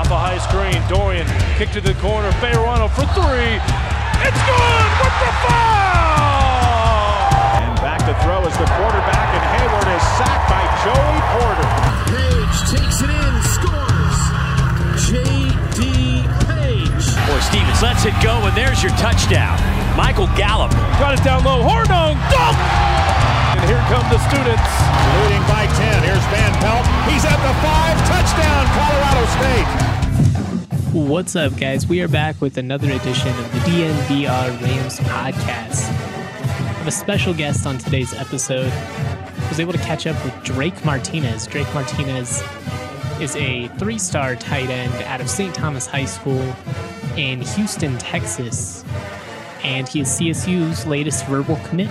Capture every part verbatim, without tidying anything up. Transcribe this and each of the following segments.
off a high screen. Dorian kicked to the corner. Fayerano for three. It's good with the foul! And back to throw is the quarterback, and Hayward is sacked by Joey Porter. Page takes it in, scores. J D. Page. Boy, Stevens lets it go, and there's your touchdown. Michael Gallup. Got it down low. Hornung. Dunk! And here come the students. Leading by ten. Here's Van Pelt. He's at the five. Touchdown, Colorado State. What's up, guys? We are back with another edition of the D N V R Rams podcast. I have a special guest on today's episode. I was able to catch up with Drake Martinez. Drake Martinez is a three-star tight end out of Saint Thomas High School in Houston, Texas. And he is C S U's latest verbal commit.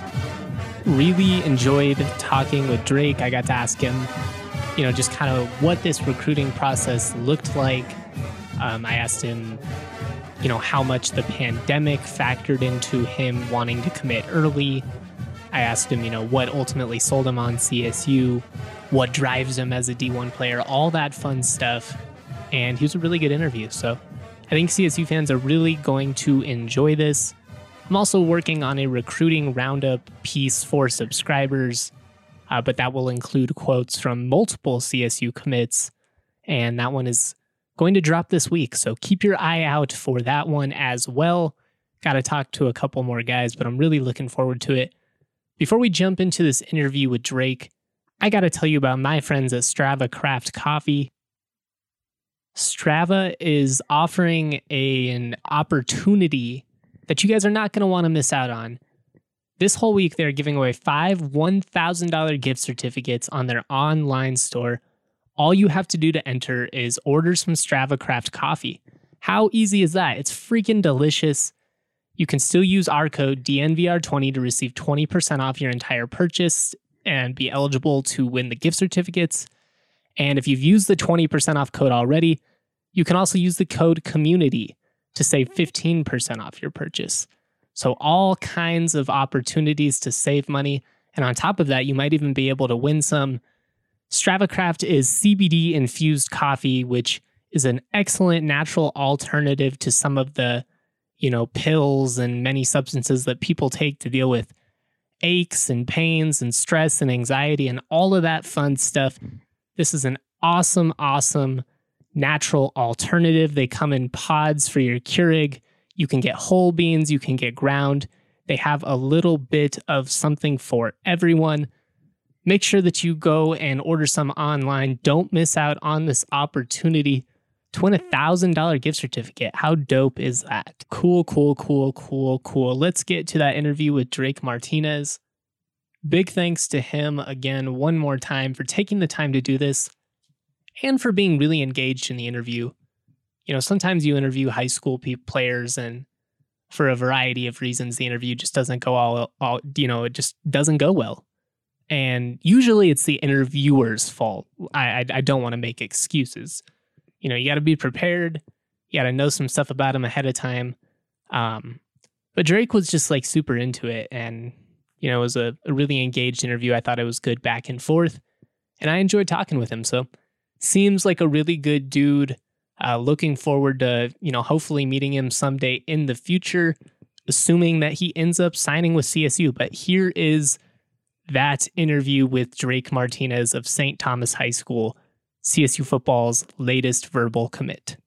Really enjoyed talking with Drake. I got to ask him, you know, just kind of what this recruiting process looked like. Um, I asked him, you know, how much the pandemic factored into him wanting to commit early. I asked him, you know, what ultimately sold him on C S U, what drives him as a D one player, all that fun stuff. And he was a really good interview. So I think C S U fans are really going to enjoy this. I'm also working on a recruiting roundup piece for subscribers, uh, but that will include quotes from multiple C S U commits. And that one is going to drop this week, so keep your eye out for that one as well. Got to talk to a couple more guys, but I'm really looking forward to it. Before we jump into this interview with Drake, I got to tell you about my friends at Strava Craft Coffee. Strava is offering a, an opportunity that you guys are not going to want to miss out on. This whole week, they're giving away five one thousand dollars gift certificates on their online store. All you have to do to enter is order some Strava Craft coffee. How easy is that? It's freaking delicious. You can still use our code D N V R twenty to receive twenty percent off your entire purchase and be eligible to win the gift certificates. And if you've used the twenty percent off code already, you can also use the code COMMUNITY to save fifteen percent off your purchase. So all kinds of opportunities to save money. And on top of that, you might even be able to win some. Strava Craft is C B D-infused coffee, which is an excellent natural alternative to some of the, you know, pills and many substances that people take to deal with aches and pains and stress and anxiety and all of that fun stuff. This is an awesome, awesome natural alternative. They come in pods for your Keurig. You can get whole beans. You can get ground. They have a little bit of something for everyone. Make sure that you go and order some online. Don't miss out on this opportunity to win a one thousand dollars gift certificate. How dope is that? Cool, cool, cool, cool, cool. Let's get to that interview with Drake Martinez. Big thanks to him again one more time for taking the time to do this and for being really engaged in the interview. You know, sometimes you interview high school pe- players and for a variety of reasons, the interview just doesn't go all, all, you know, it just doesn't go well. And usually it's the interviewer's fault. I, I, I don't want to make excuses. You know, you got to be prepared. You got to know some stuff about him ahead of time. Um, but Drake was just like super into it. And, you know, it was a, a really engaged interview. I thought it was good back and forth. And I enjoyed talking with him. So seems like a really good dude. Uh, looking forward to, you know, hopefully meeting him someday in the future, assuming that he ends up signing with C S U. But here is that interview with Drake Martinez of Saint Thomas High School, C S U football's latest verbal commit.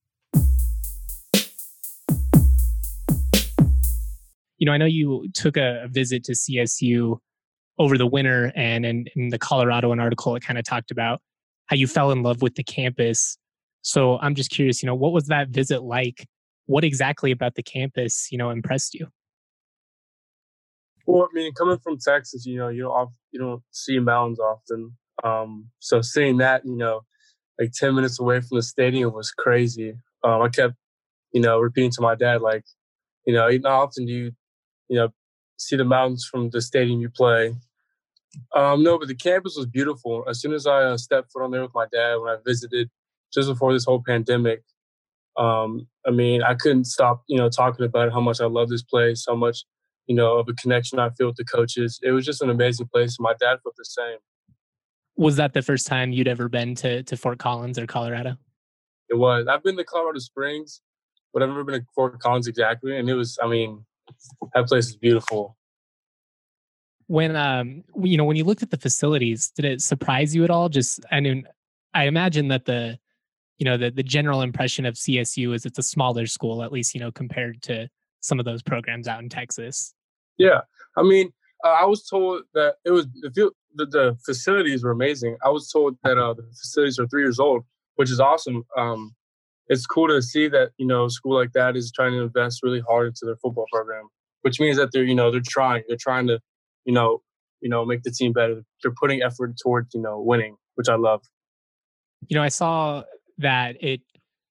You know, I know you took a visit to C S U over the winter, and in, in the Coloradoan article, it kind of talked about how you fell in love with the campus. So I'm just curious, you know, what was that visit like? What exactly about the campus, you know, impressed you? Well, I mean, coming from Texas, you know, you don't you don't see mountains often. Um, so seeing that, you know, like ten minutes away from the stadium was crazy. Um, I kept, you know, repeating to my dad, like, you know, not often do you, you know, see the mountains from the stadium you play. Um, no, but the campus was beautiful. As soon as I uh, stepped foot on there with my dad when I visited just before this whole pandemic, um, I mean, I couldn't stop, you know, talking about how much I love this place, how much, you know, of a connection I feel with the coaches. It was just an amazing place. My dad felt the same. Was that the first time you'd ever been to, to Fort Collins or Colorado? It was. I've been to Colorado Springs, but I've never been to Fort Collins exactly. And it was, I mean, that place is beautiful. When um you know when you looked at the facilities, did it surprise you at all? Just I mean, I imagine that the you know the the general impression of C S U is it's a smaller school, at least you know compared to some of those programs out in Texas. Yeah, I mean, uh, I was told that it was the, field, the the facilities were amazing. I was told that uh, the facilities are three years old, which is awesome. Um, it's cool to see that you know a school like that is trying to invest really hard into their football program, which means that they're you know they're trying, they're trying to you know you know make the team better. They're putting effort towards you know winning, which I love. You know, I saw that it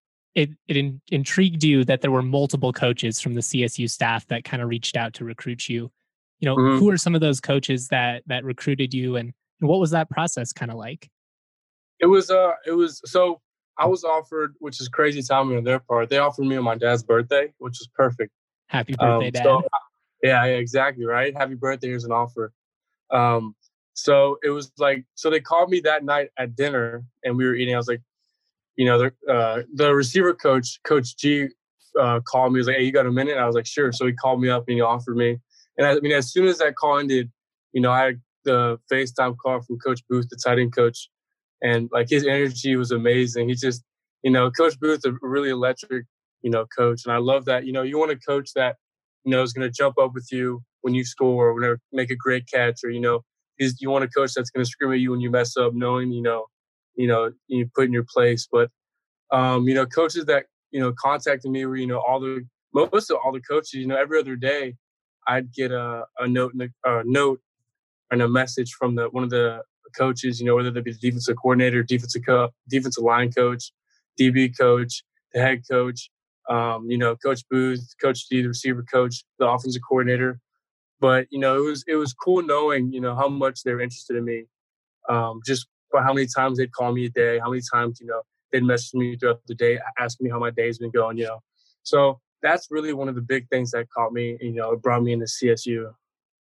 it it in, intrigued you that there were multiple coaches from the C S U staff that kind of reached out to recruit you. You know, Mhm. who are some of those coaches that that recruited you, and, and what was that process kind of like? It was uh it was so I was offered, which is crazy timing on their part. They offered me on my dad's birthday, which was perfect. Happy birthday, Um, Dad. so yeah, yeah, exactly right. Happy birthday! Here's an offer. Um, so it was like so they called me that night at dinner, and we were eating. I was like, you know, the uh, the receiver coach, Coach G, uh, called me. He was like, "Hey, you got a minute?" And I was like, "Sure." So he called me up and he offered me. And I, I mean, as soon as that call ended, you know, I had the FaceTime call from Coach Booth, the tight end coach, and like his energy was amazing. He just, you know, Coach Booth, a really electric, you know, coach, and I love that. You know, you want a coach that, you know, is going to jump up with you when you score or whenever make a great catch, or you know, is you want a coach that's going to scream at you when you mess up, knowing you know, you know, you put in your place. But um, you know, coaches that you know contacted me were you know all the most of all the coaches. You know, every other day, I'd get a a note, a note, and a message from the one of the coaches. You know, whether they be the defensive coordinator, defensive co- defensive line coach, D B coach, the head coach. Um, you know, Coach Booth, Coach D, the receiver coach, the offensive coordinator. But you know, it was it was cool knowing you know how much they were interested in me. Um, just by how many times they'd call me a day, how many times you know they'd message me throughout the day, asking me how my day's been going. You know, so that's really one of the big things that caught me. You know, it brought me into C S U.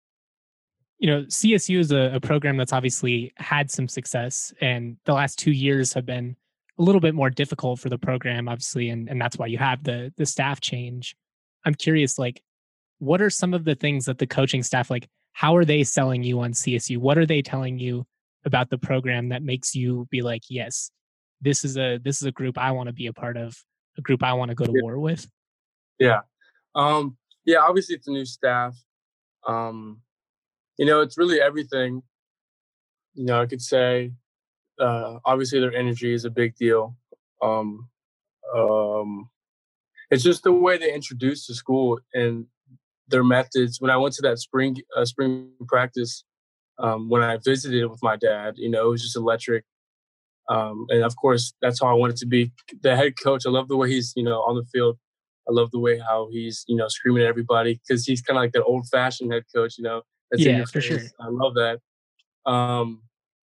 You know, C S U is a, a program that's obviously had some success, and the last two years have been a little bit more difficult for the program, obviously, and, and that's why you have the the staff change. I'm curious, like, what are some of the things that the coaching staff, like, how are they selling you on C S U? What are they telling you about the program that makes you be like, yes, this is a this is a group I want to be a part of, a group I want to go to Yeah. war with? Yeah. Um, yeah, obviously it's a new staff. Um, you know, it's really everything. You know, I could say uh, obviously their energy is a big deal. Um, um, it's just the way they introduce the school and their methods. When I went to that spring uh, spring practice, um, when I visited with my dad, you know, it was just electric. Um, and of course, that's how I wanted to be. The head coach, I love the way he's, you know, on the field. I love the way how he's, you know, screaming at everybody because he's kind of like that old-fashioned head coach, you know, that's in Yeah, your for face. sure. I love that. Um,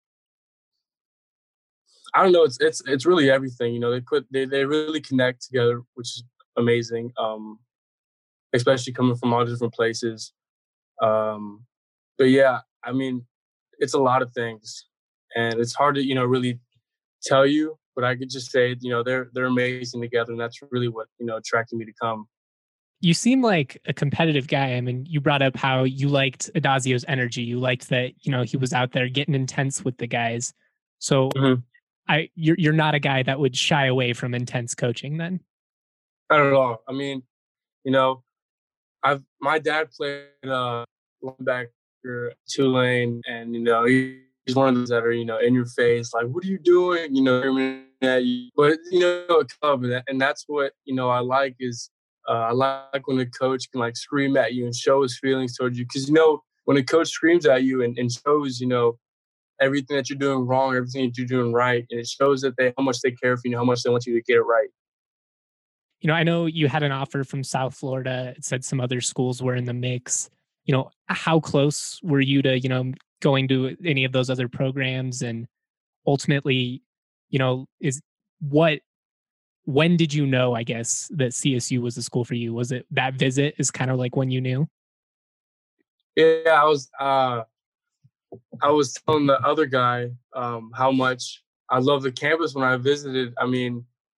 I don't know. It's it's it's really everything. You know, they put they they really connect together, which is amazing. Um, especially coming from all different places. Um, but yeah, I mean, it's a lot of things, and it's hard to you know really tell you. But I could just say, you know, they're they're amazing together, and that's really what you know attracted me to come. You seem like a competitive guy. I mean, you brought up how you liked Adazio's energy. You liked that, you know, he was out there getting intense with the guys. So Mhm. I you're you're not a guy that would shy away from intense coaching then. Not at all. I mean, you know, I've my dad played uh, linebacker at Tulane, and you know he, he's one of those that are you know in your face, like what are you doing? You know, screaming at you. But you know, a club, and, that, and that's what you know I like is uh, I like when a coach can like scream at you and show his feelings towards you, because you know when a coach screams at you and, and shows you know everything that you're doing wrong, everything that you're doing right, and it shows that they how much they care for you, how much they want you to get it right. You know, I know you had an offer from South Florida. It said some other schools were in the mix. You know, how close were you to, you know, going to any of those other programs? And ultimately, you know, is what, when did you know, I guess, that C S U was the school for you? Was it that visit is kind of like when you knew? Yeah, I was uh, I was telling the other guy um, how much I love the campus when I visited. I mean,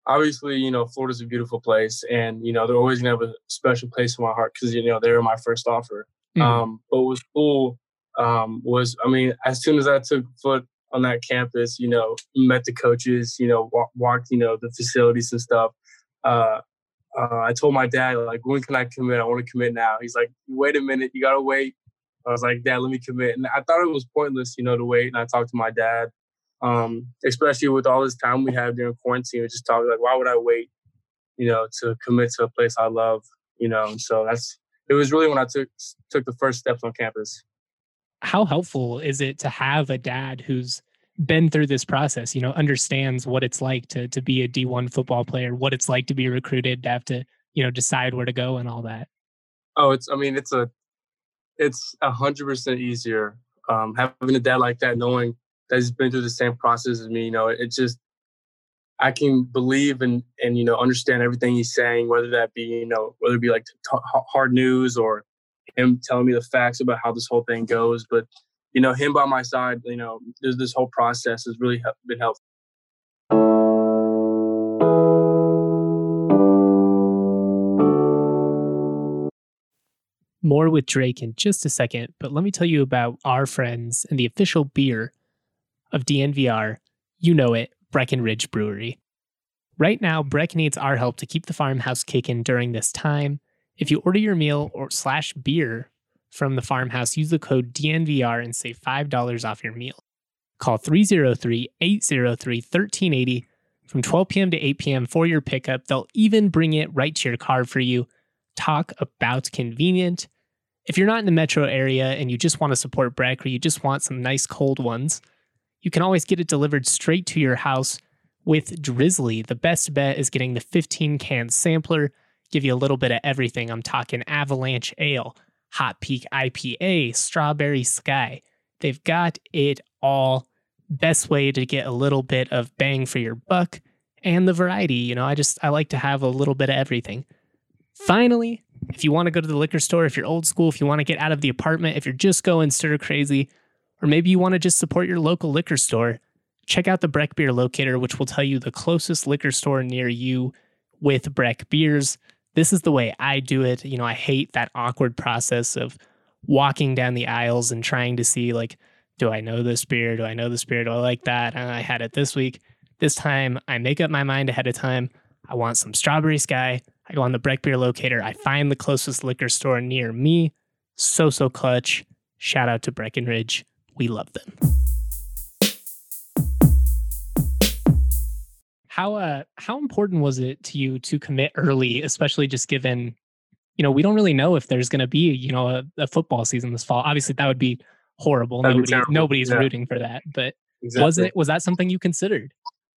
obviously, you know, Florida's a beautiful place, and, you know, they're always going to have a special place in my heart because, you know, they were my first offer. Mm-hmm. Um, but what was cool um, was, I mean, as soon as I took foot on that campus, you know, met the coaches, you know, walk, walked, you know, the facilities and stuff. Uh, uh, I told my dad, like, when can I commit? I want to commit now. He's like, wait a minute, you got to wait. I was like, Dad, let me commit. And I thought it was pointless, you know, to wait. And I talked to my dad, um, especially with all this time we have during quarantine. We just talked like, why would I wait, you know, to commit to a place I love, you know? And so that's, it was really when I took took the first steps on campus. How helpful is it to have a dad who's been through this process, you know, understands what it's like to to be a D one football player, what it's like to be recruited, to have to, you know, decide where to go and all that? Oh, it's, I mean, it's a, it's a hundred percent easier um, having a dad like that, knowing that he's been through the same process as me. You know, it, it just, I can believe and, and, you know, understand everything he's saying, whether that be, you know, whether it be like t- hard news or him telling me the facts about how this whole thing goes. But, you know, him by my side, you know, there's this whole process has really help, been helpful. More with Drake in just a second, but let me tell you about our friends and the official beer of D N V R. You know it, Breckenridge Brewery. Right now, Breck needs our help to keep the farmhouse kicking during this time. If you order your meal or slash beer from the farmhouse, use the code D N V R and save five dollars off your meal. Call three oh three, eight oh three, one three eight oh from twelve p.m. to eight p.m. for your pickup. They'll even bring it right to your car for you. Talk about convenient. If you're not in the metro area and you just want to support Breck or you just want some nice cold ones, you can always get it delivered straight to your house with Drizzly. The best bet is getting the fifteen can sampler, give you a little bit of everything. I'm talking Avalanche Ale, Hot Peak I P A, Strawberry Sky. They've got it all. Best way to get a little bit of bang for your buck and the variety. You know, I just, I like to have a little bit of everything. Finally, if you want to go to the liquor store, if you're old school, if you want to get out of the apartment, if you're just going stir crazy, or maybe you want to just support your local liquor store, check out the Breck Beer Locator, which will tell you the closest liquor store near you with Breck beers. This is the way I do it. You know, I hate that awkward process of walking down the aisles and trying to see, like, do I know this beer? Do I know this beer? Do I like that? And I had it this week. This time, I make up my mind ahead of time. I want some Strawberry Sky. I go on the Breck Beer Locator. I find the closest liquor store near me. So, so clutch. Shout out to Breckenridge. We love them. How uh how important was it to you to commit early, especially just given, you know, we don't really know if there's going to be, you know, a, a football season this fall. Obviously, that would be horrible. That'd Nobody, be nobody's yeah. rooting for that. But exactly. was it was that something you considered?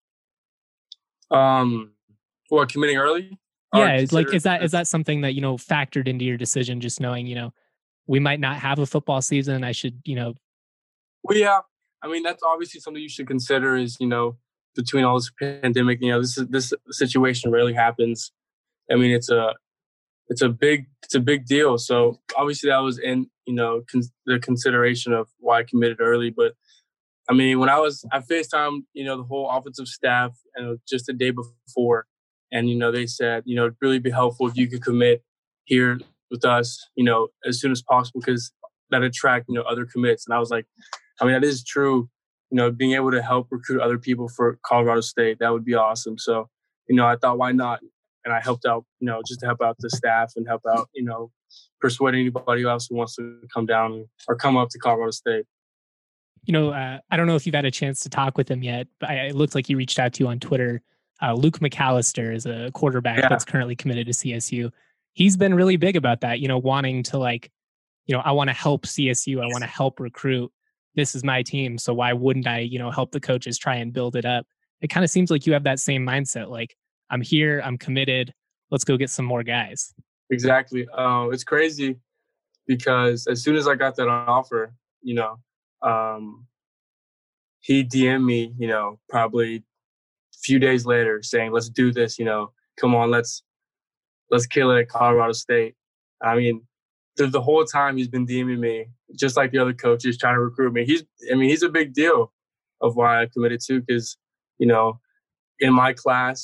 Um, what, committing early? Yeah, it's like is that is that something that, you know, factored into your decision, just knowing, you know, we might not have a football season. I should, you know. Well, yeah. I mean, that's obviously something you should consider is, you know, between all this pandemic, you know, this is, this situation rarely happens. I mean, it's a, it's a big, it's a big deal. So obviously that was in, you know, con- the consideration of why I committed early. But I mean, when I was, I FaceTimed, you know, the whole offensive staff and just the day before. And, you know, they said, you know, it'd really be helpful if you could commit here with us, you know, as soon as possible, because that attract, you know, other commits. And I was like, I mean, that is true. You know, being able to help recruit other people for Colorado State, that would be awesome. So, you know, I thought, why not? And I helped out, you know, just to help out the staff and help out, you know, persuade anybody else who wants to come down or come up to Colorado State. You know, uh, I don't know if you've had a chance to talk with him yet, but I, it looks like he reached out to you on Twitter. Uh, Luke McAllister is a quarterback yeah. that's currently committed to C S U. He's been really big about that, you know, wanting to, like, you know, I want to help C S U. I want to help recruit. This is my team. So why wouldn't I, you know, help the coaches try and build it up? It kind of seems like you have that same mindset. Like, I'm here, I'm committed. Let's go get some more guys. Exactly. Uh, it's crazy because as soon as I got that offer, you know, um, he D M'd me, you know, probably a few days later saying, let's do this, you know, come on, let's, let's kill it at Colorado State. I mean, the, the whole time he's been DMing me, just like the other coaches trying to recruit me. He's, I mean, he's a big deal of why I committed to, because, you know, in my class,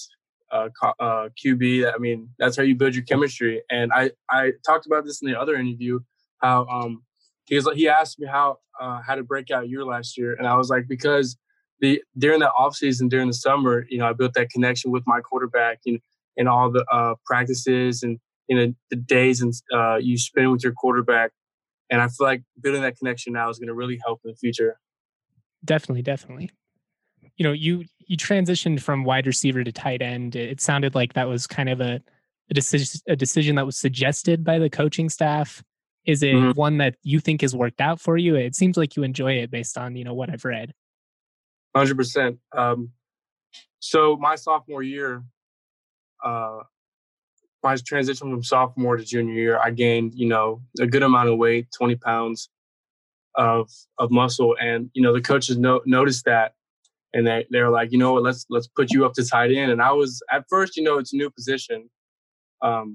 uh, uh, Q B. I mean, that's how you build your chemistry. And I, I talked about this in the other interview, how um, he was he asked me how uh, had a breakout year last year, and I was like, because the during that offseason, during the summer, you know, I built that connection with my quarterback, and and all the uh, practices and you know the days and uh, you spend with your quarterback. And I feel like building that connection now is going to really help in the future. Definitely, definitely. You know, you you transitioned from wide receiver to tight end. It sounded like that was kind of a a decision a decision that was suggested by the coaching staff. Is it mm-hmm. one that you think has worked out for you? It seems like you enjoy it based on, you know, what I've read. one hundred percent. Um, so my sophomore year, uh, my transition from sophomore to junior year, I gained, you know, a good amount of weight, twenty pounds of of muscle. And, you know, the coaches no, noticed that. And they, they were like, you know what, let's let's put you up to tight end. And I was, at first, you know, it's a new position. Um,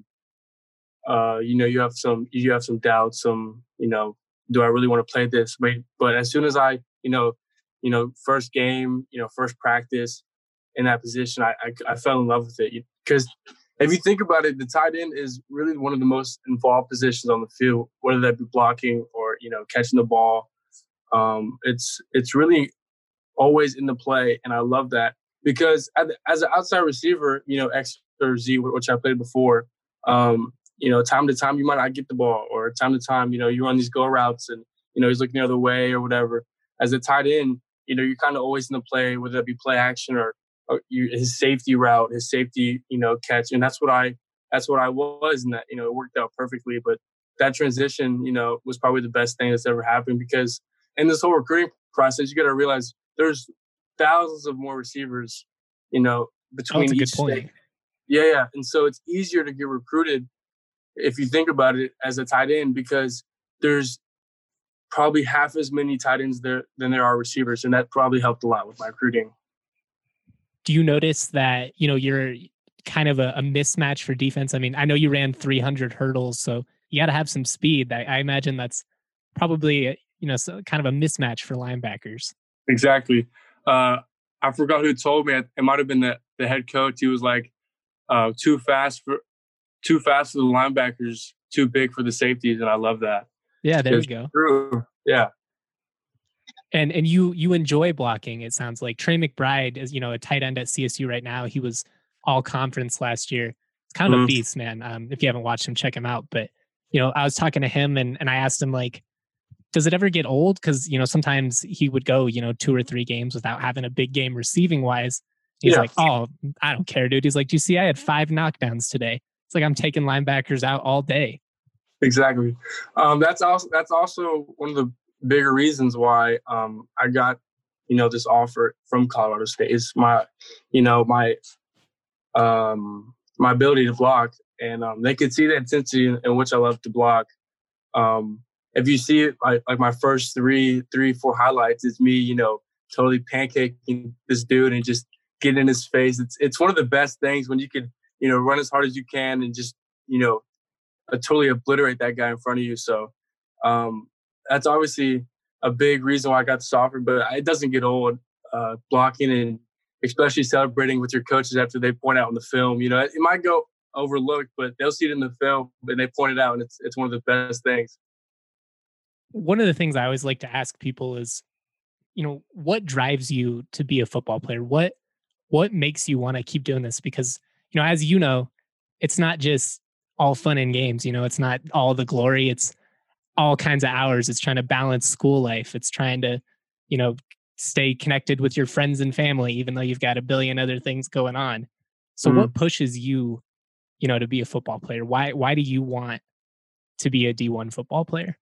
uh, you know, you have some you have some doubts, some, you know, do I really want to play this? But, but as soon as I, you know, you know, first game, you know, first practice in that position, I I, I fell in love with it. Because if you think about it, the tight end is really one of the most involved positions on the field, whether that be blocking or, you know, catching the ball. Um, it's it's really always in the play, and I love that because as an outside receiver, you know, X or Z, which I played before, um, you know, time to time you might not get the ball, or time to time, you know, you run these go routes and, you know, he's looking the other way or whatever. As a tight end, you know, you're kind of always in the play, whether it be play action or, or you, his safety route, his safety, you know, catch. And that's what I, that's what I was. And that, you know, it worked out perfectly. But that transition, you know, was probably the best thing that's ever happened, because in this whole recruiting process, you got to realize there's thousands of more receivers, you know, between oh, that's a each good point. state. Yeah, yeah. And so it's easier to get recruited if you think about it as a tight end, because there's probably half as many tight ends there than there are receivers. And that probably helped a lot with my recruiting. Do you notice that, you know, you're kind of a, a mismatch for defense? I mean, I know you ran three hundred hurdles, so you got to have some speed. I, I imagine that's probably, you know, so kind of a mismatch for linebackers. Exactly. Uh, I forgot who told me. It might have been the, the head coach. He was like, uh, too fast for too fast for the linebackers, too big for the safeties. And I love that. Yeah, there we go. True. Yeah. And and you you enjoy blocking, it sounds like. Trey McBride is, you know, a tight end at C S U right now. He was all conference last year. It's kind of mm. a beast, man. Um, if you haven't watched him, check him out. But, you know, I was talking to him and, and I asked him, like, does it ever get old? Because, you know, sometimes he would go, you know, two or three games without having a big game receiving wise. He's yeah. like, oh, I don't care, dude. He's like, do you see I had five knockdowns today? It's like I'm taking linebackers out all day. Exactly. Um, that's also that's also one of the bigger reasons why um, I got, you know, this offer from Colorado State. Is my, you know, my um, my ability to block, and um, they could see the intensity in, in which I love to block. Um, if you see it, like, like my first three, three, four highlights, it's me, you know, totally pancaking this dude and just getting in his face. It's it's one of the best things when you can, you know, run as hard as you can and just, you know, uh, totally obliterate that guy in front of you. So um, that's obviously a big reason why I got this offer, but it doesn't get old. Uh, blocking and especially celebrating with your coaches after they point out in the film, you know, it, it might go overlooked, but they'll see it in the film and they point it out, and it's it's one of the best things. One of the things I always like to ask people is, you know, what drives you to be a football player? What what makes you want to keep doing this? Because, you know, as you know, it's not just all fun and games. You know, it's not all the glory. It's all kinds of hours. It's trying to balance school life. It's trying to, you know, stay connected with your friends and family, even though you've got a billion other things going on. So mm-hmm. what pushes you, you know, to be a football player? Why why do you want to be a D one football player?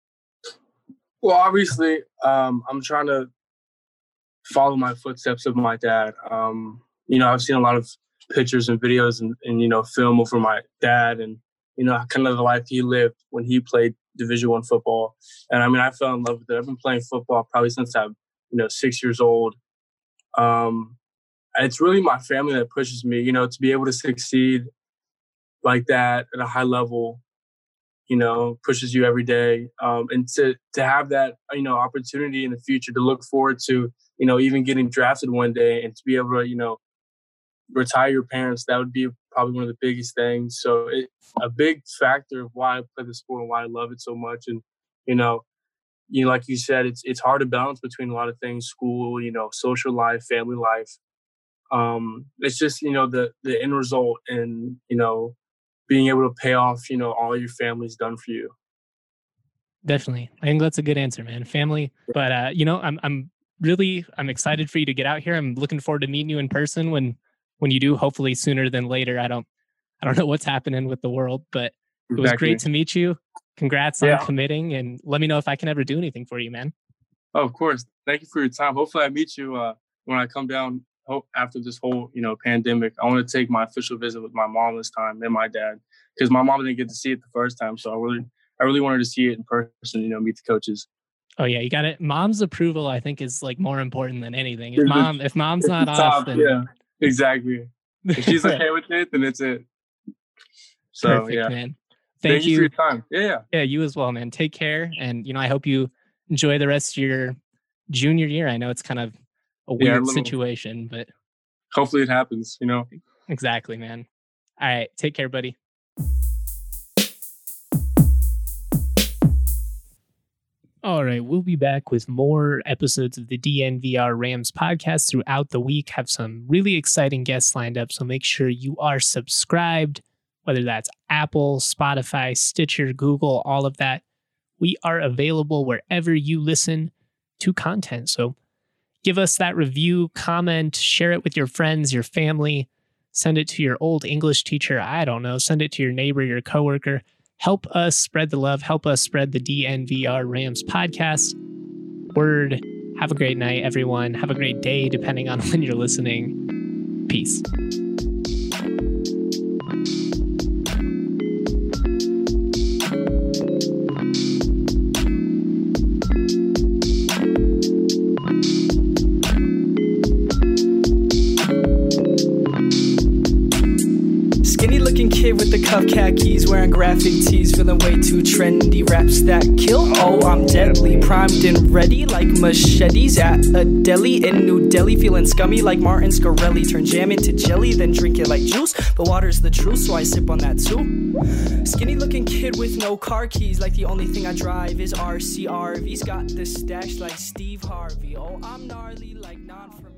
Well, obviously, um, I'm trying to follow my footsteps of my dad. Um, you know, I've seen a lot of pictures and videos and, and, you know, film over my dad and, you know, kind of the life he lived when he played Division One football. And I mean, I fell in love with it. I've been playing football probably since I'm, you know, six years old. Um, it's really my family that pushes me, you know, to be able to succeed like that at a high level, you know, pushes you every day. Um, and to, to have that, you know, opportunity in the future to look forward to, you know, even getting drafted one day and to be able to, you know, retire your parents. That would be probably one of the biggest things. So it, a big factor of why I play the sport and why I love it so much. And, you know, you know, like you said, it's it's hard to balance between a lot of things, school, you know, social life, family life. Um, it's just, you know, the, the end result and, you know, being able to pay off, you know, all your family's done for you. Definitely. I think that's a good answer, man. Family. But, uh, you know, I'm, I'm really, I'm excited for you to get out here. I'm looking forward to meeting you in person when, when you do, hopefully sooner than later. I don't, I don't know what's happening with the world, but it was Exactly. great to meet you. Congrats on Yeah. committing, and let me know if I can ever do anything for you, man. Oh, of course. Thank you for your time. Hopefully I meet you uh, when I come down hope after this whole, you know, pandemic. I want to take my official visit with my mom this time and my dad, because my mom didn't get to see it the first time. So I really, I really wanted to see it in person, you know, meet the coaches. Oh yeah, you got it. Mom's approval, I think, is like more important than anything. If mom, if mom's not off, Top, then yeah, exactly. If she's okay with it, then it's it. So perfect, yeah, man. thank, Thank you you. for your time. Yeah, yeah. Yeah, you as well, man. Take care. And, you know, I hope you enjoy the rest of your junior year. I know it's kind of a Yeah, a weird little- situation, but Hopefully it happens. You know. exactly, man. All right. Take care, buddy. All right. We'll be back with more episodes of the D N V R Rams podcast throughout the week. Have some really exciting guests lined up. So make sure you are subscribed, whether that's Apple, Spotify, Stitcher, Google, all of that. We are available wherever you listen to content. So give us that review, comment, share it with your friends, your family, send it to your old English teacher. I don't know. Send it to your neighbor, your coworker. Help us spread the love. Help us spread the D N V R Rams podcast word. Have a great night, everyone. Have a great day, depending on when you're listening. Peace. Skinny looking kid with the cuff khakis, wearing graphic tees, feeling way too trendy. Raps that kill, oh I'm deadly, primed and ready like machetes at a deli in New Delhi. Feeling scummy like Martin Scarelli, turn jam into jelly, then drink it like juice. But water's the truth, so I sip on that too. Skinny looking kid with no car keys, like the only thing I drive is R C R V's. Got the stash like Steve Harvey, oh I'm gnarly like non